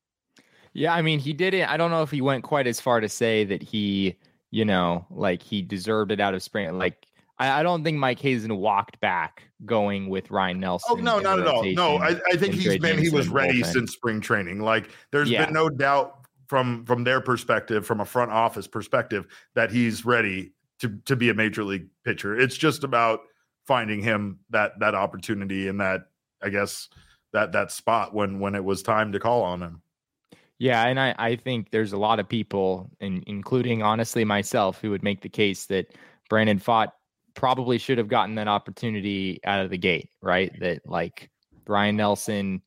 Yeah, I mean, he didn't. I don't know if he went quite as far to say that he, you know, like he deserved it out of spring. Like, I, I don't think Mike Hazen walked back going with Ryan Nelson. Oh, no, not at all. No, I, I think he's been, he was ready since spring training. Like, there's yeah. been no doubt from, from their perspective, from a front office perspective, that he's ready to, to be a major league pitcher. It's just about finding him that, that opportunity and that, I guess, that, that spot when, when it was time to call on him. Yeah, and I, I think there's a lot of people, and including honestly myself, who would make the case that Brandon Pfaadt probably should have gotten that opportunity out of the gate, right? That like Ryan Nelson,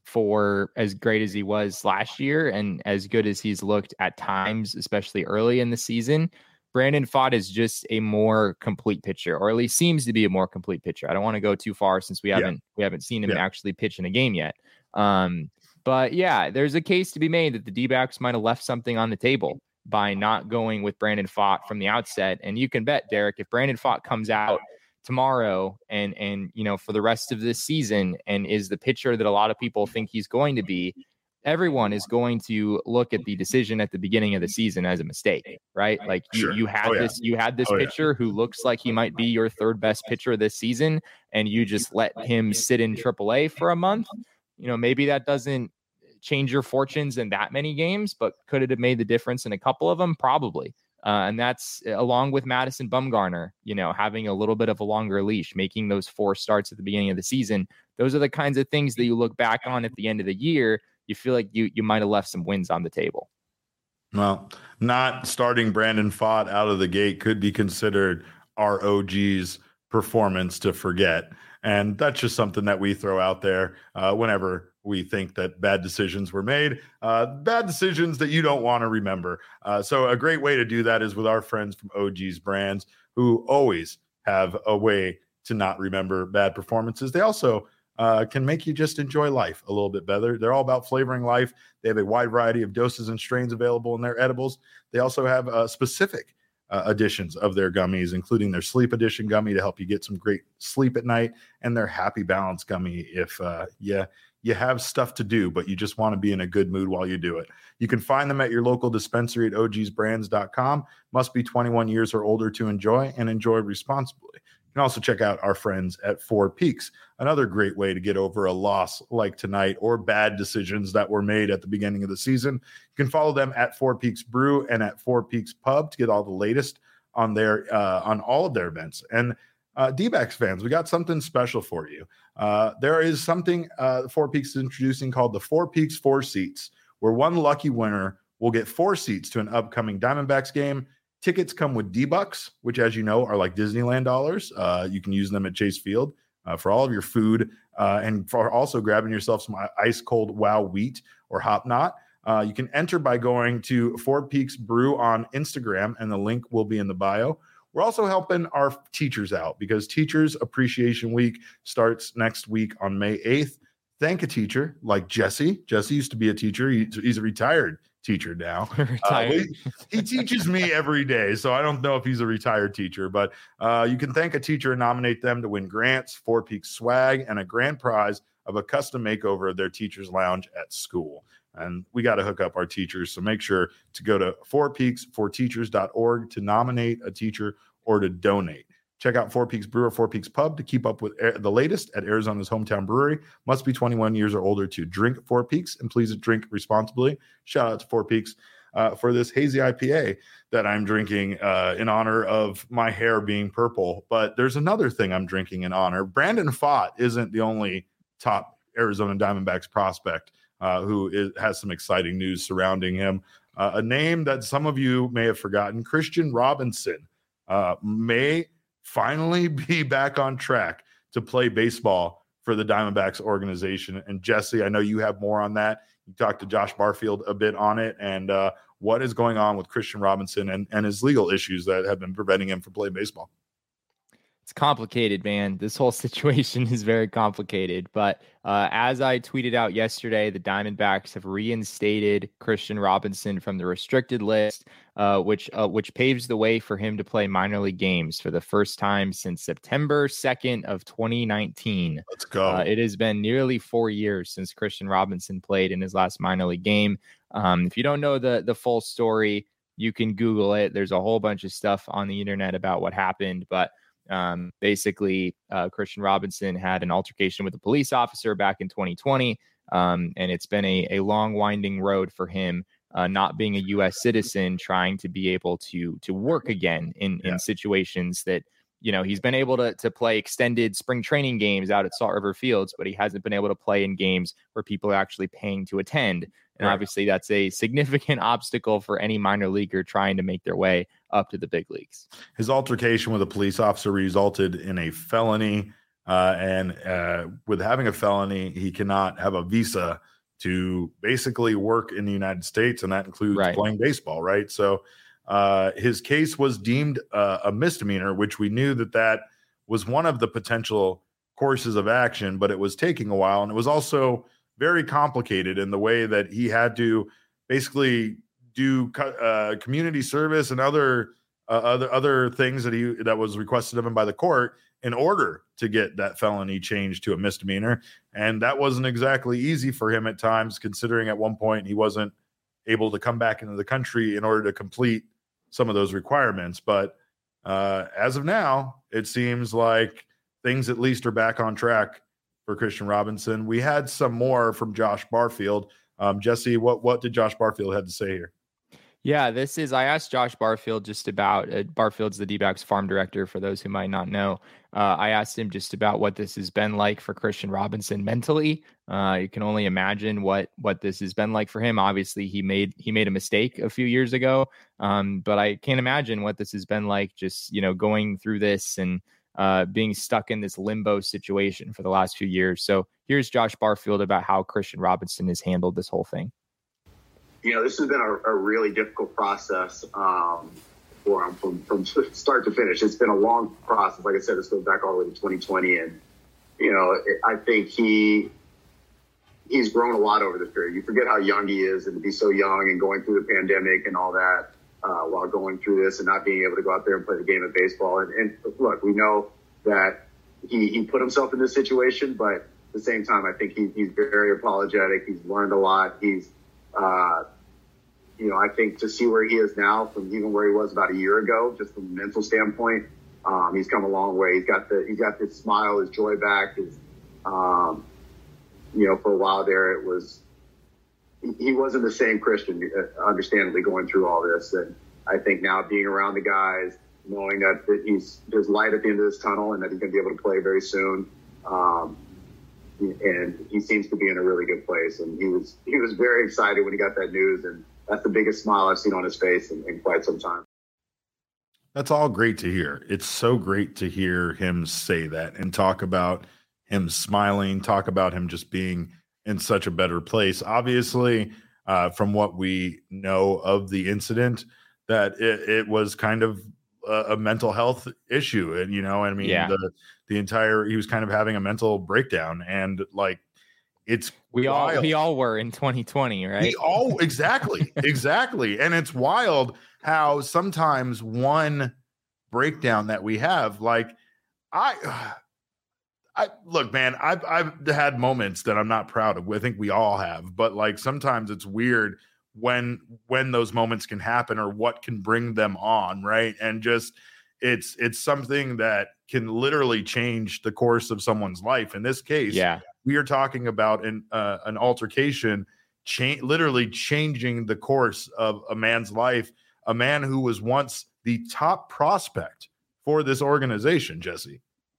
for as great as he was last year and as good as he's looked at times, especially early in the season, Brandon Pfaadt is just a more complete pitcher, or at least seems to be a more complete pitcher. I don't want to go too far since we haven't yeah. we haven't seen him yeah. actually pitch in a game yet. Um, But yeah, there's a case to be made that the D-backs might have left something on the table by not going with Brandon Pfaadt from the outset. And you can bet, Derek, if Brandon Pfaadt comes out tomorrow and, and, you know, for the rest of this season and is the pitcher that a lot of people think he's going to be, everyone is going to look at the decision at the beginning of the season as a mistake, right? Like you, sure. you had oh, yeah. this, you had this oh, pitcher yeah. who looks like he might be your third best pitcher this season, and you just let him sit in triple A for a month. You know, maybe that doesn't change your fortunes in that many games, but could it have made the difference in a couple of them? Probably. Uh, and that's along with Madison Bumgarner, you know, having a little bit of a longer leash, making those four starts at the beginning of the season. Those are the kinds of things that you look back on at the end of the year. You feel like you, you might have left some wins on the table. Well, not starting Brandon Pfaadt out of the gate could be considered our O G's performance to forget. And that's just something that we throw out there uh, whenever we think that bad decisions were made, uh, bad decisions that you don't want to remember. Uh, so a great way to do that is with our friends from O G's Brands, who always have a way to not remember bad performances. They also uh, can make you just enjoy life a little bit better. They're all about flavoring life. They have a wide variety of doses and strains available in their edibles. They also have uh, specific Uh, editions of their gummies, including their sleep edition gummy to help you get some great sleep at night, and their happy balance gummy if uh, yeah, you have stuff to do, but you just want to be in a good mood while you do it. You can find them at your local dispensary at o gs brands dot com. Must be twenty-one years or older to enjoy, and enjoy responsibly. You can also check out our friends at Four Peaks, another great way to get over a loss like tonight or bad decisions that were made at the beginning of the season. You can follow them at Four Peaks Brew and at Four Peaks Pub to get all the latest on their uh, on all of their events. And uh, D-backs fans, we got something special for you. Uh, there is something uh, Four Peaks is introducing called the Four Peaks Four Seats, where one lucky winner will get four seats to an upcoming Diamondbacks game. Tickets come with D-Bucks, which, as you know, are like Disneyland dollars. Uh, you can use them at Chase Field uh, for all of your food uh, and for also grabbing yourself some ice cold Wow Wheat or Hop Knot. Uh, you can enter by going to Four Peaks Brew on Instagram, and the link will be in the bio. We're also helping our teachers out because Teachers Appreciation Week starts next week on May eighth. Thank a teacher like Jesse. Jesse used to be a teacher. He, he's a retired teacher now. Uh, he, he teaches me every day, so I don't know if he's a retired teacher, but uh, you can thank a teacher and nominate them to win grants, Four Peaks swag, and a grand prize of a custom makeover of their teacher's lounge at school. And we got to hook up our teachers, so make sure to go to four peaks for teachers dot org to nominate a teacher or to donate. Check out Four Peaks Brew or Four Peaks Pub to keep up with the latest at Arizona's hometown brewery. Must be twenty-one years or older to drink Four Peaks, and please drink responsibly. Shout out to Four Peaks uh, for this hazy I P A that I'm drinking uh, in honor of my hair being purple. But there's another thing I'm drinking in honor. Brandon Pfaadt isn't the only top Arizona Diamondbacks prospect uh, who is, has some exciting news surrounding him. Uh, a name that some of you may have forgotten, Christian Robinson, uh, may finally be back on track to play baseball for the Diamondbacks organization. And Jesse, I know you have more on that. You talked to Josh Barfield a bit on it, and uh, what is going on with Christian Robinson and, and his legal issues that have been preventing him from playing baseball. It's complicated, man. This whole situation is very complicated. But uh, as I tweeted out yesterday, the Diamondbacks have reinstated Christian Robinson from the restricted list, uh, which uh, which paves the way for him to play minor league games for the first time since September second of twenty nineteen. Let's go. Uh, it has been nearly four years since Christian Robinson played in his last minor league game. Um, if you don't know the the full story, you can Google it. There's a whole bunch of stuff on the internet about what happened, but Um, basically, uh, Christian Robinson had an altercation with a police officer back in twenty twenty, um, and it's been a, a long, winding road for him, uh, not being a U S citizen, trying to be able to to work again in, yeah. in situations that, you know, he's been able to to play extended spring training games out at Salt River Fields, but he hasn't been able to play in games where people are actually paying to attend. And right. obviously, that's a significant obstacle for any minor leaguer trying to make their way up to the big leagues. His altercation with a police officer resulted in a felony, uh, and uh, with having a felony, he cannot have a visa to basically work in the United States, and that includes right. playing baseball, right? So uh, his case was deemed uh, a misdemeanor, which we knew that that was one of the potential courses of action, but it was taking a while, and it was also very complicated in the way that he had to basically do uh, community service and other uh, other other things that he that was requested of him by the court in order to get that felony changed to a misdemeanor. And that wasn't exactly easy for him at times, considering at one point he wasn't able to come back into the country in order to complete some of those requirements. But uh, as of now, it seems like things at least are back on track for Christian Robinson. We had some more from Josh Barfield. Um, Jesse, what, what did Josh Barfield have to say here? Yeah, this is, I asked Josh Barfield just about, uh, Barfield's the D-backs farm director, for those who might not know. Uh, I asked him just about what this has been like for Christian Robinson mentally. Uh, you can only imagine what, what this has been like for him. Obviously he made, he made a mistake a few years ago. Um, but I can't imagine what this has been like, just, you know, going through this and, uh, being stuck in this limbo situation for the last few years. So here's Josh Barfield about how Christian Robinson has handled this whole thing. You know, this has been a, a really difficult process um, for him from, from start to finish. It's been a long process. Like I said, this goes back all the way to twenty twenty. And, you know, it, I think he he's grown a lot over this period. You forget how young he is, and to be so young and going through the pandemic and all that. Uh, while going through this and not being able to go out there and play the game of baseball. And, and look, we know that he, he put himself in this situation, but at the same time, I think he, he's very apologetic. He's learned a lot. He's, uh, you know, I think to see where he is now from even where he was about a year ago, just from a mental standpoint, Um, he's come a long way. He's got the he's got his smile, his joy back. His, um, you know, for a while there, it was he wasn't the same Christian, understandably, going through all this. And I think now being around the guys, knowing that, that he's there's light at the end of this tunnel and that he's going to be able to play very soon. Um, and he seems to be in a really good place. And he was he was very excited when he got that news, and that's the biggest smile I've seen on his face in, in quite some time. That's all great to hear. It's so great to hear him say that and talk about him smiling, talk about him just being in such a better place. Obviously, uh, from what we know of the incident, that it, it was kind of a, a mental health issue. And, you know, I mean, yeah. the, the entire, he was kind of having a mental breakdown, and like, it's we wild. all, we all were in twenty twenty, right? We all, exactly, exactly. And it's wild how sometimes one breakdown that we have, like I, I look, man, I've, I've had moments that I'm not proud of. I think we all have, but like, sometimes it's weird when, when those moments can happen or what can bring them on. Right. And just, it's, it's something that can literally change the course of someone's life. In this case, yeah, we are talking about an, uh, an altercation, cha- literally changing the course of a man's life, a man who was once the top prospect for this organization, Jesse.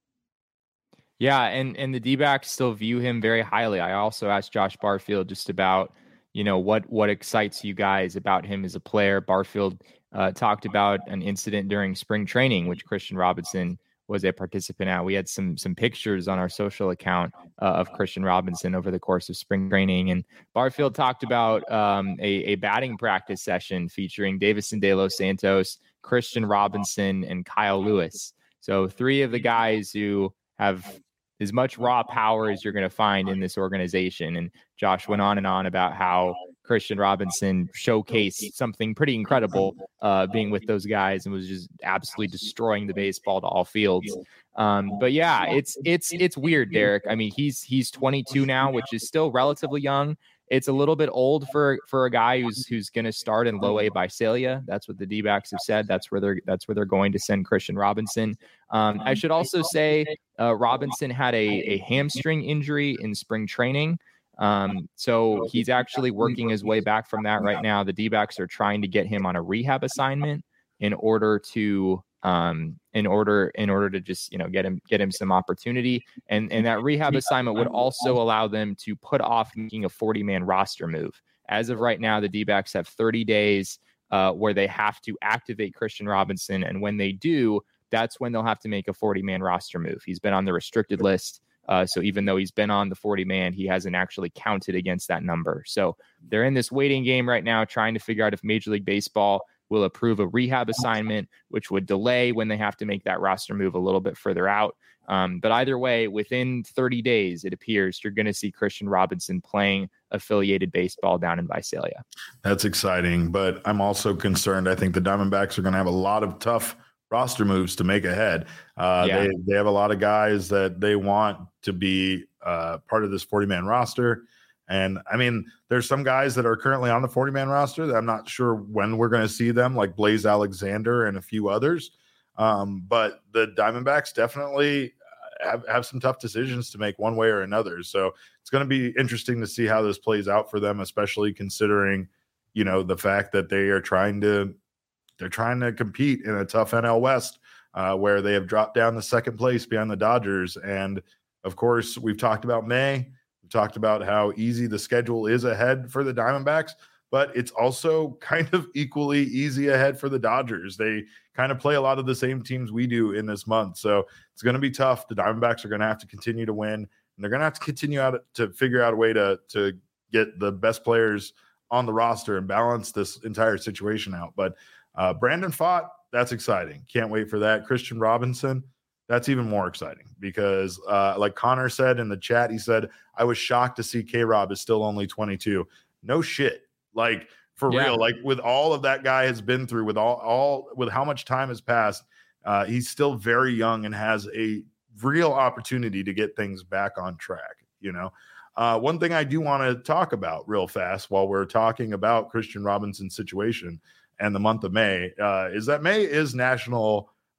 Yeah, and and the D-backs still view him very highly. I also asked Josh Barfield just about, you know, what what excites you guys about him as a player. Barfield uh, talked about an incident during spring training, which Christian Robinson was a participant at. We had some some pictures on our social account uh, of Christian Robinson over the course of spring training. And Barfield talked about um, a, a batting practice session featuring Davison De Los Santos, Christian Robinson, and Kyle Lewis. So three of the guys who have as much raw power as you're going to find in this organization. And Josh went on and on about how Christian Robinson showcased something pretty incredible uh, being with those guys and was just absolutely destroying the baseball to all fields. Um, but yeah, it's, it's, it's weird, Derek. I mean, he's, he's twenty-two now, which is still relatively young. It's a little bit old for, for a guy who's, who's going to start in low A Visalia. That's what the D-backs have said. That's where they're, that's where they're going to send Christian Robinson. Um, I should also say uh, Robinson had a, a hamstring injury in spring training. Um, so he's actually working his way back from that right now. The D-backs are trying to get him on a rehab assignment in order to, um, in order, in order to just, you know, get him, get him some opportunity. And, and that rehab assignment would also allow them to put off making a forty man roster move. As of right now, the D-backs have thirty days, uh, where they have to activate Christian Robinson. And when they do, that's when they'll have to make a forty man roster move. He's been on the restricted list. Uh, so even though he's been on the forty man, he hasn't actually counted against that number. So they're in this waiting game right now, trying to figure out if Major League Baseball will approve a rehab assignment, which would delay when they have to make that roster move a little bit further out. Um, but either way, within thirty days, it appears you're going to see Christian Robinson playing affiliated baseball down in Visalia. That's exciting, but I'm also concerned. I think the Diamondbacks are going to have a lot of tough roster moves to make ahead. Uh, yeah. they, they have a lot of guys that they want to be uh, part of this forty man roster. And I mean, there's some guys that are currently on the forty man roster that I'm not sure when we're going to see them, like Blaze Alexander and a few others. Um, but the Diamondbacks definitely have, have some tough decisions to make one way or another. So it's going to be interesting to see how this plays out for them, especially considering, you know, the fact that they are trying to, they're trying to compete in a tough N L West uh, where they have dropped down to second place behind the Dodgers. And of course, we've talked about May. We've talked about how easy the schedule is ahead for the Diamondbacks, but it's also kind of equally easy ahead for the Dodgers. They kind of play a lot of the same teams we do in this month. So it's going to be tough. The Diamondbacks are going to have to continue to win, and they're going to have to continue out to figure out a way to, to get the best players on the roster and balance this entire situation out. But uh, Brandon Pfaadt, that's exciting. Can't wait for that. Christian Robinson, that's even more exciting because uh, like Connor said in the chat, he said, I was shocked to see K-Rob is still only twenty-two. No shit. Like for yeah. real, like with all of that guy has been through, with all, all with how much time has passed, uh, he's still very young and has a real opportunity to get things back on track. You know, uh, one thing I do want to talk about real fast while we're talking about Christian Robinson's situation and the month of May uh, is that May is National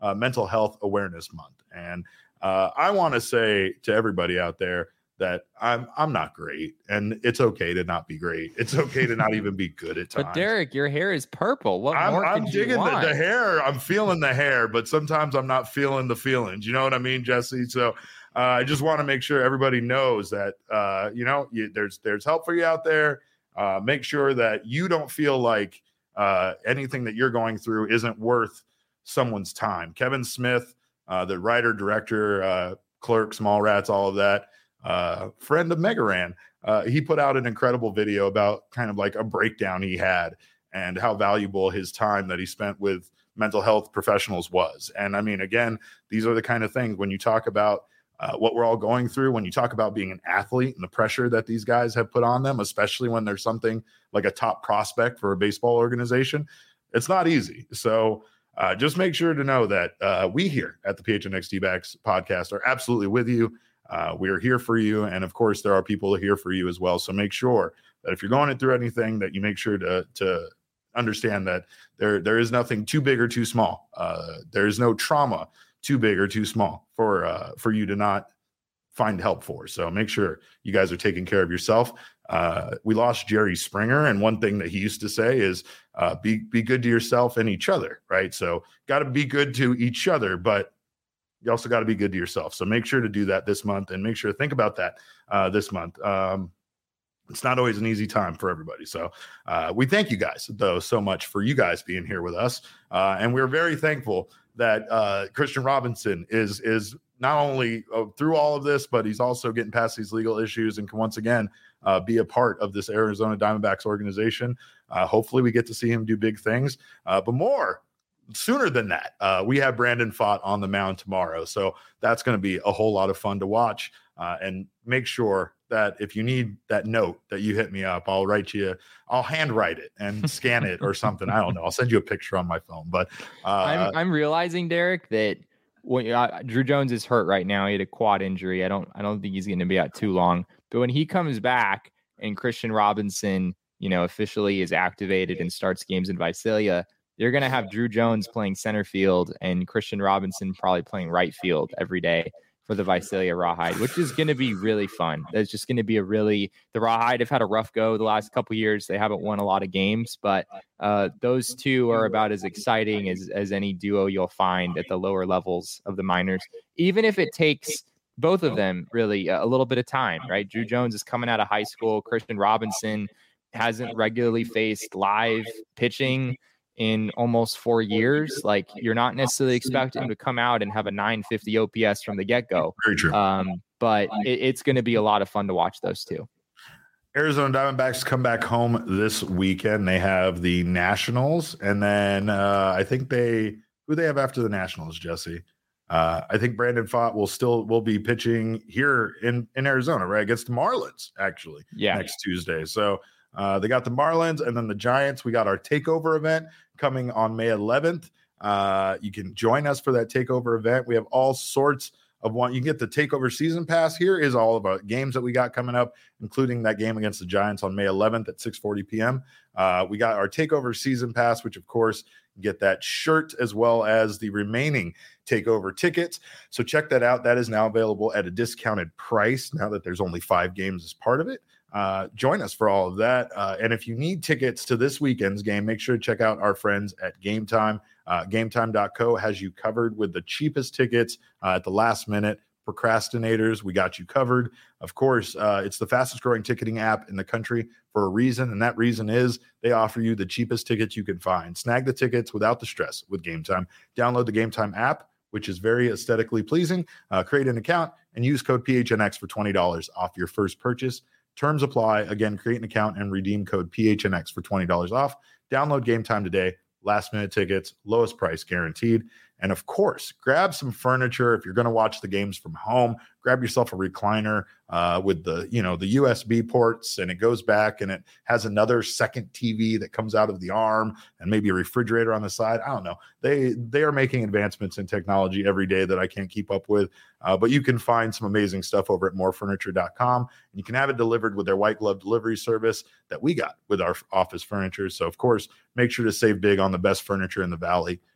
uh, Mental Health Awareness Month. And uh, I want to say to everybody out there that I'm I'm not great, and it's okay to not be great. It's okay to not even be good at times. But Derek, your hair is purple. What I'm, more I'm could digging you want? the, the hair. I'm feeling the hair, but sometimes I'm not feeling the feelings. You know what I mean, Jesse? So uh, I just want to make sure everybody knows that uh, you know you, there's there's help for you out there. Uh, make sure that you don't feel like uh, anything that you're going through isn't worth someone's time. Kevin Smith, uh, the writer, director, uh, Clerks, Mallrats, all of that. Uh, friend of Megaran, uh, he put out an incredible video about kind of like a breakdown he had and how valuable his time that he spent with mental health professionals was. And I mean, again, these are the kind of things when you talk about uh, what we're all going through, when you talk about being an athlete and the pressure that these guys have put on them, especially when there's something like a top prospect for a baseball organization, it's not easy. So uh, just make sure to know that uh, we here at the P H N X D-Backs podcast are absolutely with you. Uh, we are here for you. And of course, there are people here for you as well. So make sure that if you're going through anything, that you make sure to, to understand that there, there is nothing too big or too small. Uh, there is no trauma too big or too small for, uh, for you to not find help for. So make sure you guys are taking care of yourself. Uh, we lost Jerry Springer. And one thing that he used to say is uh, be, be good to yourself and each other. Right. So got to be good to each other, but you also got to be good to yourself. So make sure to do that this month and make sure to think about that uh, this month. Um, it's not always an easy time for everybody. So uh, we thank you guys, though, so much for you guys being here with us. Uh, and we're very thankful that uh, Christian Robinson is is not only uh, through all of this, but he's also getting past these legal issues and can once again uh, be a part of this Arizona Diamondbacks organization. Uh, hopefully we get to see him do big things, uh, but more sooner than that, uh, we have Brandon Pfaadt on the mound tomorrow. So that's going to be a whole lot of fun to watch. Uh, and make sure that if you need that note that you hit me up, I'll write you, I'll handwrite it and scan it or something. I don't know. I'll send you a picture on my phone. But uh, I'm, I'm realizing, Derek, that when uh, Drew Jones is hurt right now, he had a quad injury. I don't, I don't think he's going to be out too long. But when he comes back and Christian Robinson, you know, officially is activated and starts games in Visalia, you're going to have Drew Jones playing center field and Christian Robinson probably playing right field every day for the Visalia Rawhide, which is going to be really fun. That's just going to be a really, the Rawhide have had a rough go the last couple of years. They haven't won a lot of games, but uh, those two are about as exciting as, as any duo you'll find at the lower levels of the minors, even if it takes both of them really a little bit of time, right? Drew Jones is coming out of high school. Christian Robinson hasn't regularly faced live pitching in almost four years. Like, you're not necessarily expecting him to come out and have a nine fifty O P S from the get-go. Very true. Um, but it, it's going to be a lot of fun to watch those two. Arizona Diamondbacks come back home this weekend. They have the Nationals, and then uh, I think they who they have after the Nationals, Jesse. Uh, I think Brandon Pfaadt will still will be pitching here in, in Arizona, right, against the Marlins, actually, yeah. next Tuesday. So uh, they got the Marlins and then the Giants. We got our takeover event coming on May eleventh. Uh, you can join us for that takeover event. We have all sorts of one. You can get the takeover season pass. Here is all of our games that we got coming up, including that game against the Giants on May eleventh at six forty p.m. Uh, we got our takeover season pass, which of course you get that shirt as well as the remaining takeover tickets. So check that out. That is now available at a discounted price now that there's only five games as part of it. Uh, join us for all of that. Uh, and if you need tickets to this weekend's game, make sure to check out our friends at Game Time. Uh, game time dot co has you covered with the cheapest tickets uh, at the last minute. Procrastinators, we got you covered. Of course, uh, it's the fastest growing ticketing app in the country for a reason. And that reason is they offer you the cheapest tickets you can find. Snag the tickets without the stress with Game Time. Download the Game Time app, which is very aesthetically pleasing. Uh, create an account and use code P H N X for twenty dollars off your first purchase. Terms apply. Again, create an account and redeem code P H N X for twenty dollars off. Download Game Time today. Last minute tickets, lowest price guaranteed. And of course, grab some furniture. If you're going to watch the games from home, grab yourself a recliner uh, with the, you know, the U S B ports, and it goes back and it has another second T V that comes out of the arm and maybe a refrigerator on the side. I don't know. They, they are making advancements in technology every day that I can't keep up with. Uh, but you can find some amazing stuff over at more furniture dot com, and you can have it delivered with their white glove delivery service that we got with our office furniture. So of course, make sure to save big on the best furniture in the Valley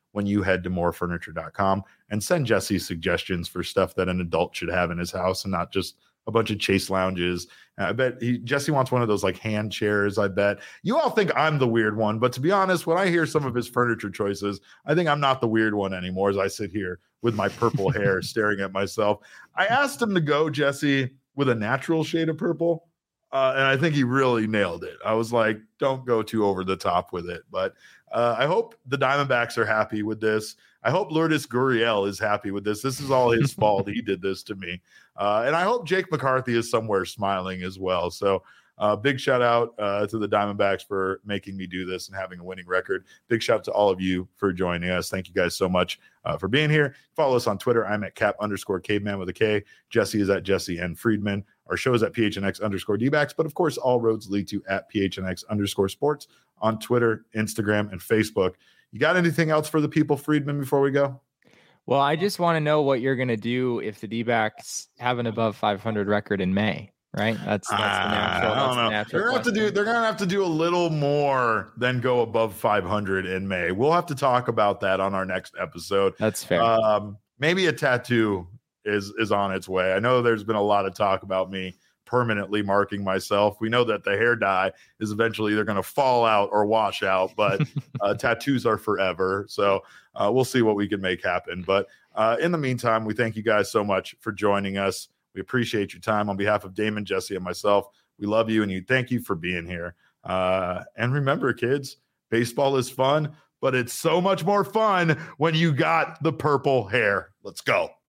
when you head to more furniture dot com and send Jesse suggestions for stuff that an adult should have in his house and not just a bunch of chase lounges. I bet he, Jesse wants one of those like hand chairs. I bet you all think I'm the weird one, but to be honest, when I hear some of his furniture choices, I think I'm not the weird one anymore as I sit here with my purple hair staring at myself. I asked him to go, Jesse, with a natural shade of purple. Uh, and I think he really nailed it. I was like, don't go too over the top with it. But uh, I hope the Diamondbacks are happy with this. I hope Lourdes Gurriel is happy with this. This is all his fault. He did this to me. Uh, and I hope Jake McCarthy is somewhere smiling as well. So uh, big shout out uh, to the Diamondbacks for making me do this and having a winning record. Big shout out to all of you for joining us. Thank you guys so much uh, for being here. Follow us on Twitter. I'm at cap underscore caveman with a K. Jesse is at Jesse N. Friedman. Our show is at P H N X underscore D-backs. But of course, all roads lead to at P H N X underscore sports on Twitter, Instagram, and Facebook. You got anything else for the people, Friedman, before we go? Well, I just want to know what you're going to do if the D-backs have an above five hundred record in May, right? That's, that's the natural. I don't that's know. the natural They're going to have to do. They're going to have to do a little more than go above five hundred in May. We'll have to talk about that on our next episode. That's fair. Um, maybe a tattoo is is on its way. I know there's been a lot of talk about me permanently marking myself. We know that the hair dye is eventually either going to fall out or wash out, but uh, tattoos are forever. So uh, we'll see what we can make happen. But uh, in the meantime, we thank you guys so much for joining us. We appreciate your time. On behalf of Damon, Jesse, and myself, we love you and you. Thank you for being here. Uh, and remember, kids, baseball is fun, but it's so much more fun when you got the purple hair. Let's go.